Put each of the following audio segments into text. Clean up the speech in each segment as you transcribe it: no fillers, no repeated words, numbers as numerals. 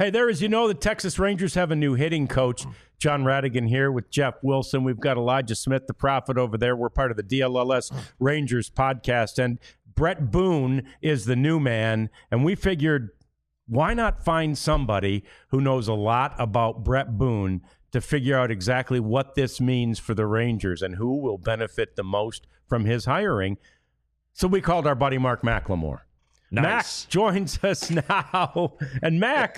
Hey, there, as you know, the Texas Rangers have a new hitting coach. John Radigan here with Jeff Wilson. We've got Elijah Smith, the prophet, over there. We're part of the DLLS Rangers podcast. And Brett Boone is the new man. And we figured, why not find somebody who knows a lot about Brett Boone to figure out exactly what this means for the Rangers and who will benefit the most from his hiring. So we called our buddy Mark McLemore. Nice. Mac joins us now. And Mac,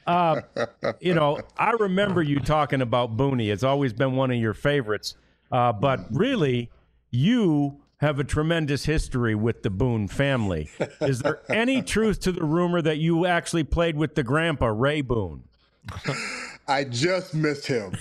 I remember you talking about Booney. It's always been one of your favorites. But really, you have a tremendous history with the Boone family. Is there any truth to the rumor that you actually played with the grandpa, Ray Boone? I just missed him.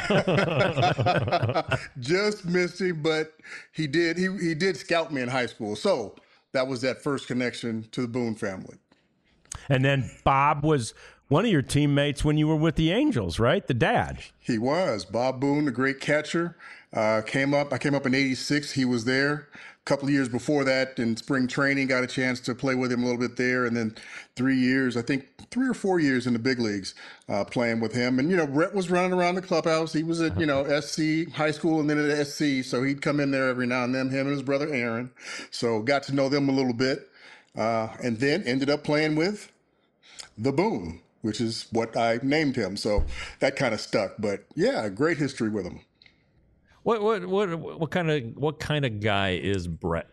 Just missed him, but he did scout me in high school. So that was that first connection to the Boone family. And then Bob was one of your teammates when you were with the Angels, right? The dad. He was. Bob Boone, the great catcher. I came up in 86. He was there. A couple of years before that in spring training, got a chance to play with him a little bit there. And then 3 years, I think 3 or 4 years in the big leagues playing with him. And, Brett was running around the clubhouse. He was at, SC high school and then at SC. So he'd come in there every now and then, him and his brother Aaron. So got to know them a little bit. And then ended up playing with the Boone, which is what I named him. So that kind of stuck. But yeah, great history with him. What kind of guy is Brett?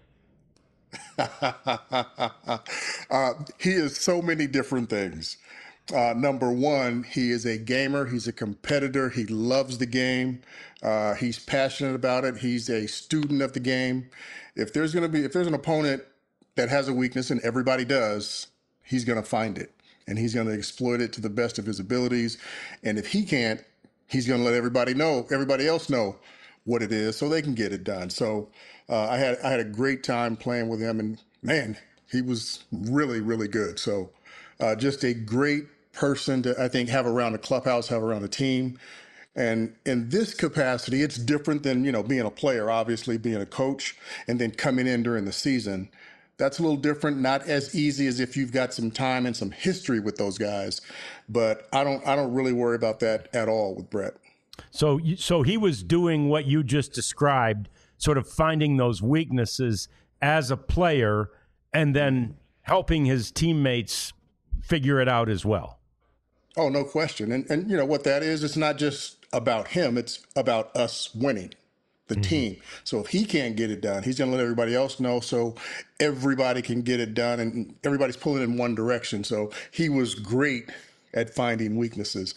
He is so many different things. Number one, he is a gamer. He's a competitor. He loves the game. He's passionate about it. He's a student of the game. If there's an opponent that has a weakness, and everybody does, he's going to find it and he's going to exploit it to the best of his abilities. And if he can't, he's going to let everybody else know what it is so they can get it done. So I had a great time playing with him, and man, he was really, really good. So just a great person to, I think, have around the clubhouse, have around the team. And in this capacity, it's different than, being a player, obviously being a coach and then coming in during the season. That's a little different, not as easy as if you've got some time and some history with those guys. But I don't really worry about that at all with Brett. So he was doing what you just described, sort of finding those weaknesses as a player and then helping his teammates figure it out as well. Oh, no question. And what that is, it's not just about him. It's about us winning, the team. So if he can't get it done, he's going to let everybody else know so everybody can get it done, and everybody's pulling in one direction. So he was great at finding weaknesses.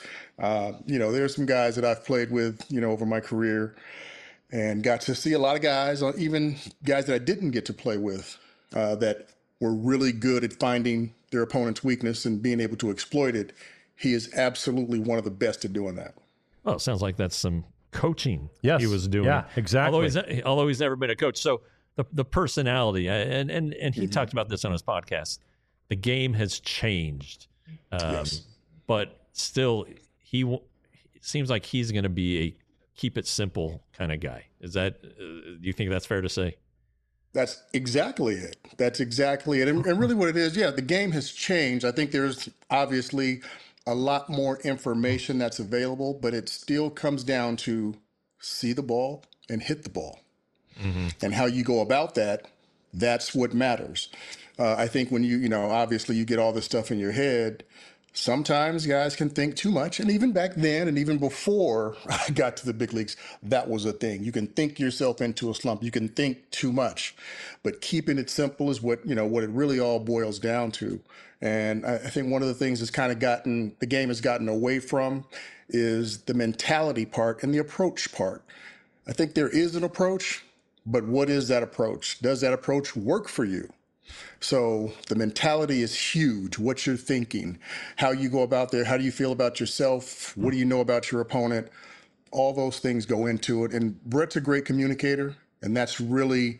There's some guys that I've played with, over my career and got to see a lot of guys, even guys that I didn't get to play with, that were really good at finding their opponent's weakness and being able to exploit it. He is absolutely one of the best at doing that. Well, it sounds like that's some coaching he was doing. Yeah, exactly. Although he's never been a coach. So the personality, and he talked about this on his podcast, the game has changed. Yes. But still, it seems like he's going to be a keep it simple kind of guy. Is that, do you think that's fair to say? That's exactly it. That's exactly it. And really what it is, the game has changed. I think there's obviously a lot more information that's available, but it still comes down to see the ball and hit the ball. Mm-hmm. And how you go about that, that's what matters. I think when obviously you get all this stuff in your head, sometimes guys can think too much. And even back then and even before I got to the big leagues, that was a thing. You can think yourself into a slump. You can think too much. But keeping it simple is what it really all boils down to. And I think one of the things the game has gotten away from is the mentality part and the approach part. I think there is an approach, but what is that approach? Does that approach work for you? So the mentality is huge. What you're thinking, how you go about there, how do you feel about yourself? What do you know about your opponent? All those things go into it. And Brett's a great communicator. And that's really,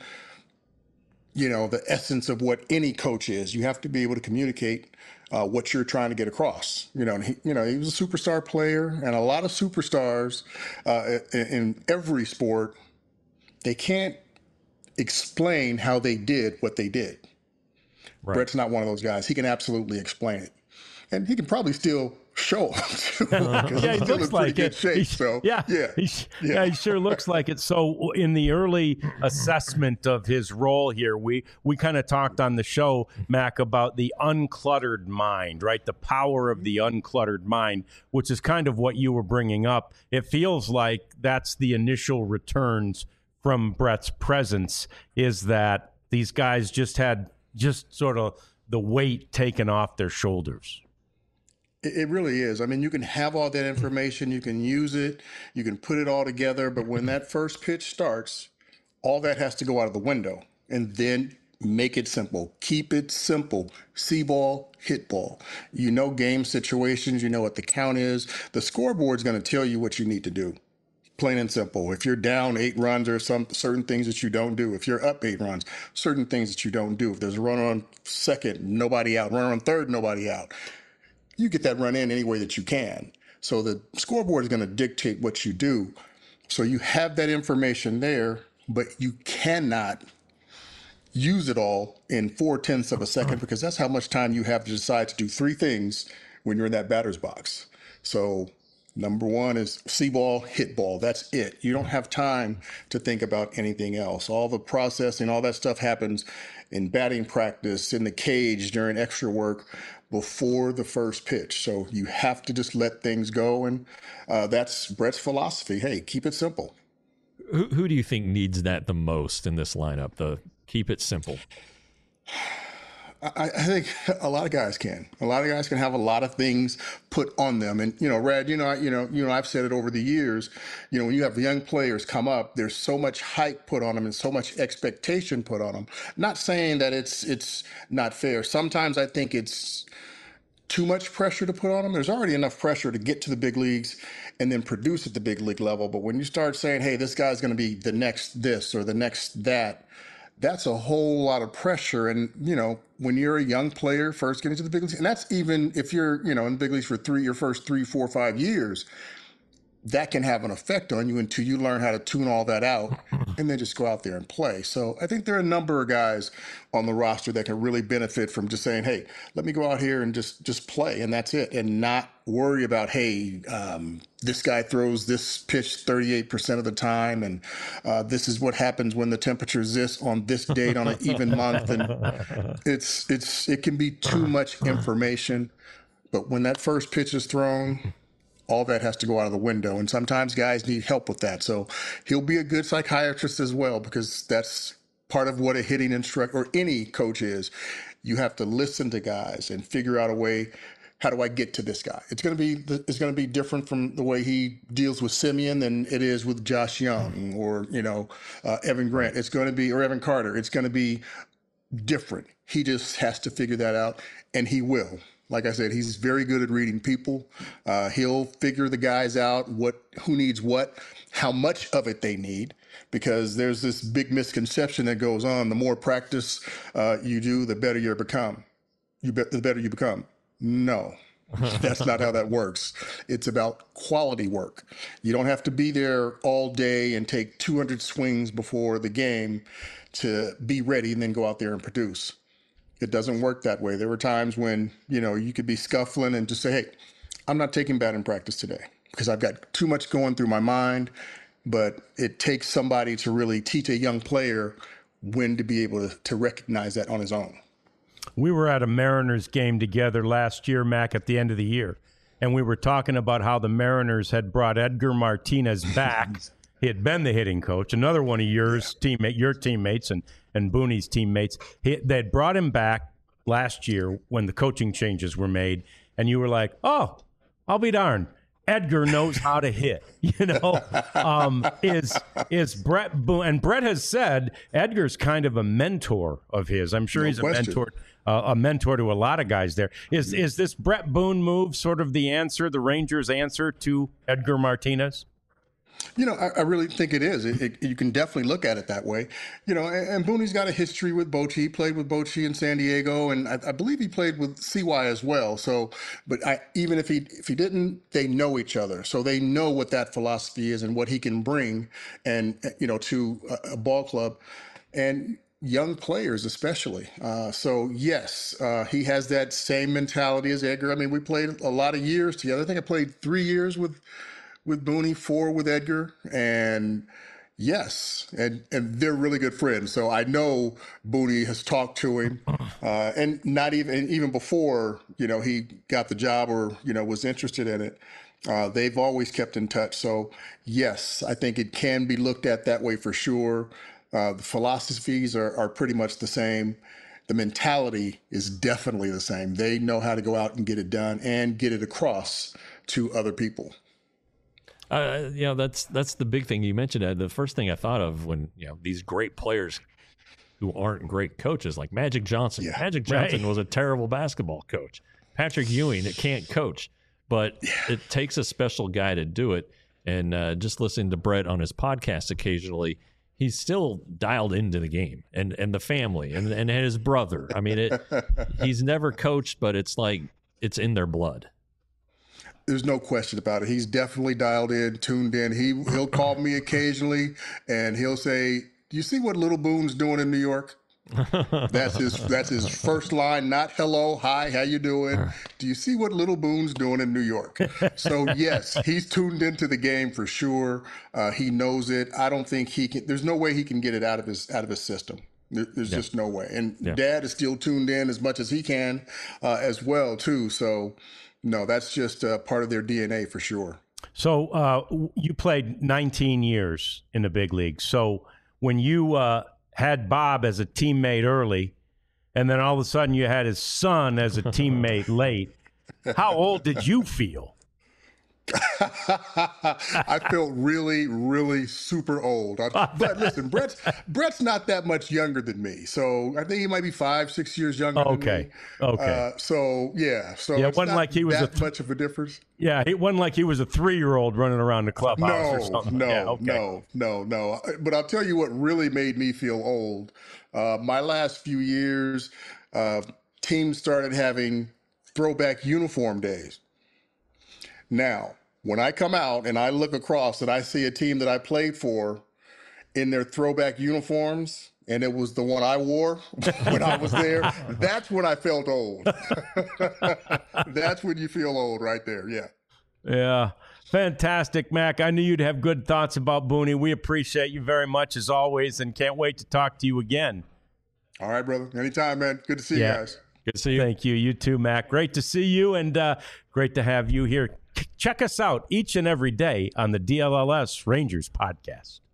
the essence of what any coach is. You have to be able to communicate what you're trying to get across. And he was a superstar player, and a lot of superstars in every sport, they can't explain how they did what they did. Right. Brett's not one of those guys. He can absolutely explain it. And he can probably still show him. Yeah, he looks like it. Shape, so, he sure looks like it. So in the early assessment of his role here, we kind of talked on the show, Mac, about the uncluttered mind, right? The power of the uncluttered mind, which is kind of what you were bringing up. It feels like that's the initial returns from Brett's presence, is that these guys just had sort of the weight taken off their shoulders. It really is. I mean, you can have all that information, you can use it, you can put it all together, but when that first pitch starts, all that has to go out of the window. And then make it simple. Keep it simple. See ball, hit ball. You know game situations, you know what the count is. The scoreboard's going to tell you what you need to do. Plain and simple. If you're down 8 runs, there are some certain things that you don't do. If you're up 8 runs, certain things that you don't do. If there's a runner on second, nobody out. Runner on third, nobody out. You get that run in any way that you can. So the scoreboard is going to dictate what you do. So you have that information there, but you cannot use it all in 0.4 of a second, because that's how much time you have to decide to do 3 things when you're in that batter's box. So number 1 is see ball, hit ball. That's it. You don't have time to think about anything else. All the processing, all that stuff happens in batting practice, in the cage, during extra work, before the first pitch. So you have to just let things go. And that's Brett's philosophy. Hey, keep it simple. Who do you think needs that the most in this lineup? The keep it simple. I think a lot of guys can. A lot of guys can have a lot of things put on them. And, Rad, I've said it over the years, when you have young players come up, there's so much hype put on them and so much expectation put on them. Not saying that it's not fair. Sometimes I think it's too much pressure to put on them. There's already enough pressure to get to the big leagues and then produce at the big league level. But when you start saying, hey, this guy's going to be the next this or the next that, that's a whole lot of pressure. And, when you're a young player first getting to the big leagues, and that's even if you're, in the big leagues for your first 3, 4, 5 years, that can have an effect on you until you learn how to tune all that out and then just go out there and play. So I think there are a number of guys on the roster that can really benefit from just saying, hey, let me go out here and just play, and that's it, and not worry about, hey, this guy throws this pitch 38% of the time, and this is what happens when the temperature is this on this date on an even month. And it can be too much information, but when that first pitch is thrown, all that has to go out of the window. And sometimes guys need help with that. So he'll be a good psychiatrist as well, because that's part of what a hitting instructor or any coach is. You have to listen to guys and figure out a way, how do I get to this guy? It's going to be different from the way he deals with Simeon than it is with Josh Young or, Evan Grant. It's going to be, or Evan Carter. It's going to be different. He just has to figure that out, and he will. Like I said, he's very good at reading people. He'll figure the guys out, who needs what, how much of it they need, because there's this big misconception that goes on. The more practice you do, the better you become. The better you become. No, that's not how that works. It's about quality work. You don't have to be there all day and take 200 swings before the game to be ready and then go out there and produce. It doesn't work that way. There were times when, you could be scuffling and just say, hey, I'm not taking batting practice today because I've got too much going through my mind. But it takes somebody to really teach a young player when to be able to recognize that on his own. We were at a Mariners game together last year, Mac, at the end of the year, and we were talking about how the Mariners had brought Edgar Martinez back. He had been the hitting coach, another one of your teammates and Booney's teammates. They'd brought him back last year when the coaching changes were made, and you were like, oh, I'll be darned. Edgar knows how to hit, is Brett Boone. And Brett has said Edgar's kind of a mentor of his. I'm sure he's a mentor to a lot of guys there. Is this Brett Boone move sort of the answer, the Rangers' answer to Edgar Martinez? I really think it is. You can definitely look at it that way. And Booney's got a history with Bochy. He played with Bochy in San Diego, and I believe he played with CY as well. So, but even if he didn't, they know each other. So they know what that philosophy is and what he can bring, and to a ball club. And young players, especially. So yes, he has that same mentality as Edgar. I mean, we played a lot of years together. I think I played 3 years with Booney, 4 with Edgar, and yes, and they're really good friends. So I know Booney has talked to him, and not even before he got the job or was interested in it. They've always kept in touch. So yes, I think it can be looked at that way for sure. The philosophies are pretty much the same. The mentality is definitely the same. They know how to go out and get it done and get it across to other people. That's the big thing you mentioned. The first thing I thought of when these great players who aren't great coaches, like Magic Johnson. Yeah, Magic Johnson was a terrible basketball coach. Patrick Ewing, that can't coach, but it takes a special guy to do it. And just listening to Brett on his podcast occasionally, he's still dialed into the game and the family and his brother. I mean, he's never coached, but it's like it's in their blood. There's no question about it. He's definitely dialed in, tuned in. He'll call me occasionally, and he'll say, "Do you see what Little Boone's doing in New York?" That's his first line, not hello, hi, how you doing? Do you see what Little Boone's doing in New York? So yes, he's tuned into the game for sure. He knows it. I don't think he can. There's no way he can get it out of his system. There's just no way. And Dad is still tuned in as much as he can as well too. So. No, that's just part of their DNA for sure. So you played 19 years in the big league. So when you had Bob as a teammate early, and then all of a sudden you had his son as a teammate late, how old did you feel? I felt really, really super old. But listen, Brett's not that much younger than me, so I think he might be 5-6 years younger than me. Okay. So it's it wasn't like he was that much of a difference. Yeah, it wasn't like he was a 3-year-old running around the clubhouse or something. No. But I'll tell you what really made me feel old. My last few years, teams started having throwback uniform days. Now, when I come out and I look across and I see a team that I played for in their throwback uniforms, and it was the one I wore when I was there, that's when I felt old. That's when you feel old right there, yeah. Yeah, fantastic, Mac. I knew you'd have good thoughts about Booney. We appreciate you very much as always and can't wait to talk to you again. All right, brother. Anytime, man. Good to see you guys. Good to see you. Thank you. You too, Mac. Great to see you and great to have you here. Check us out each and every day on the DLLS Rangers podcast.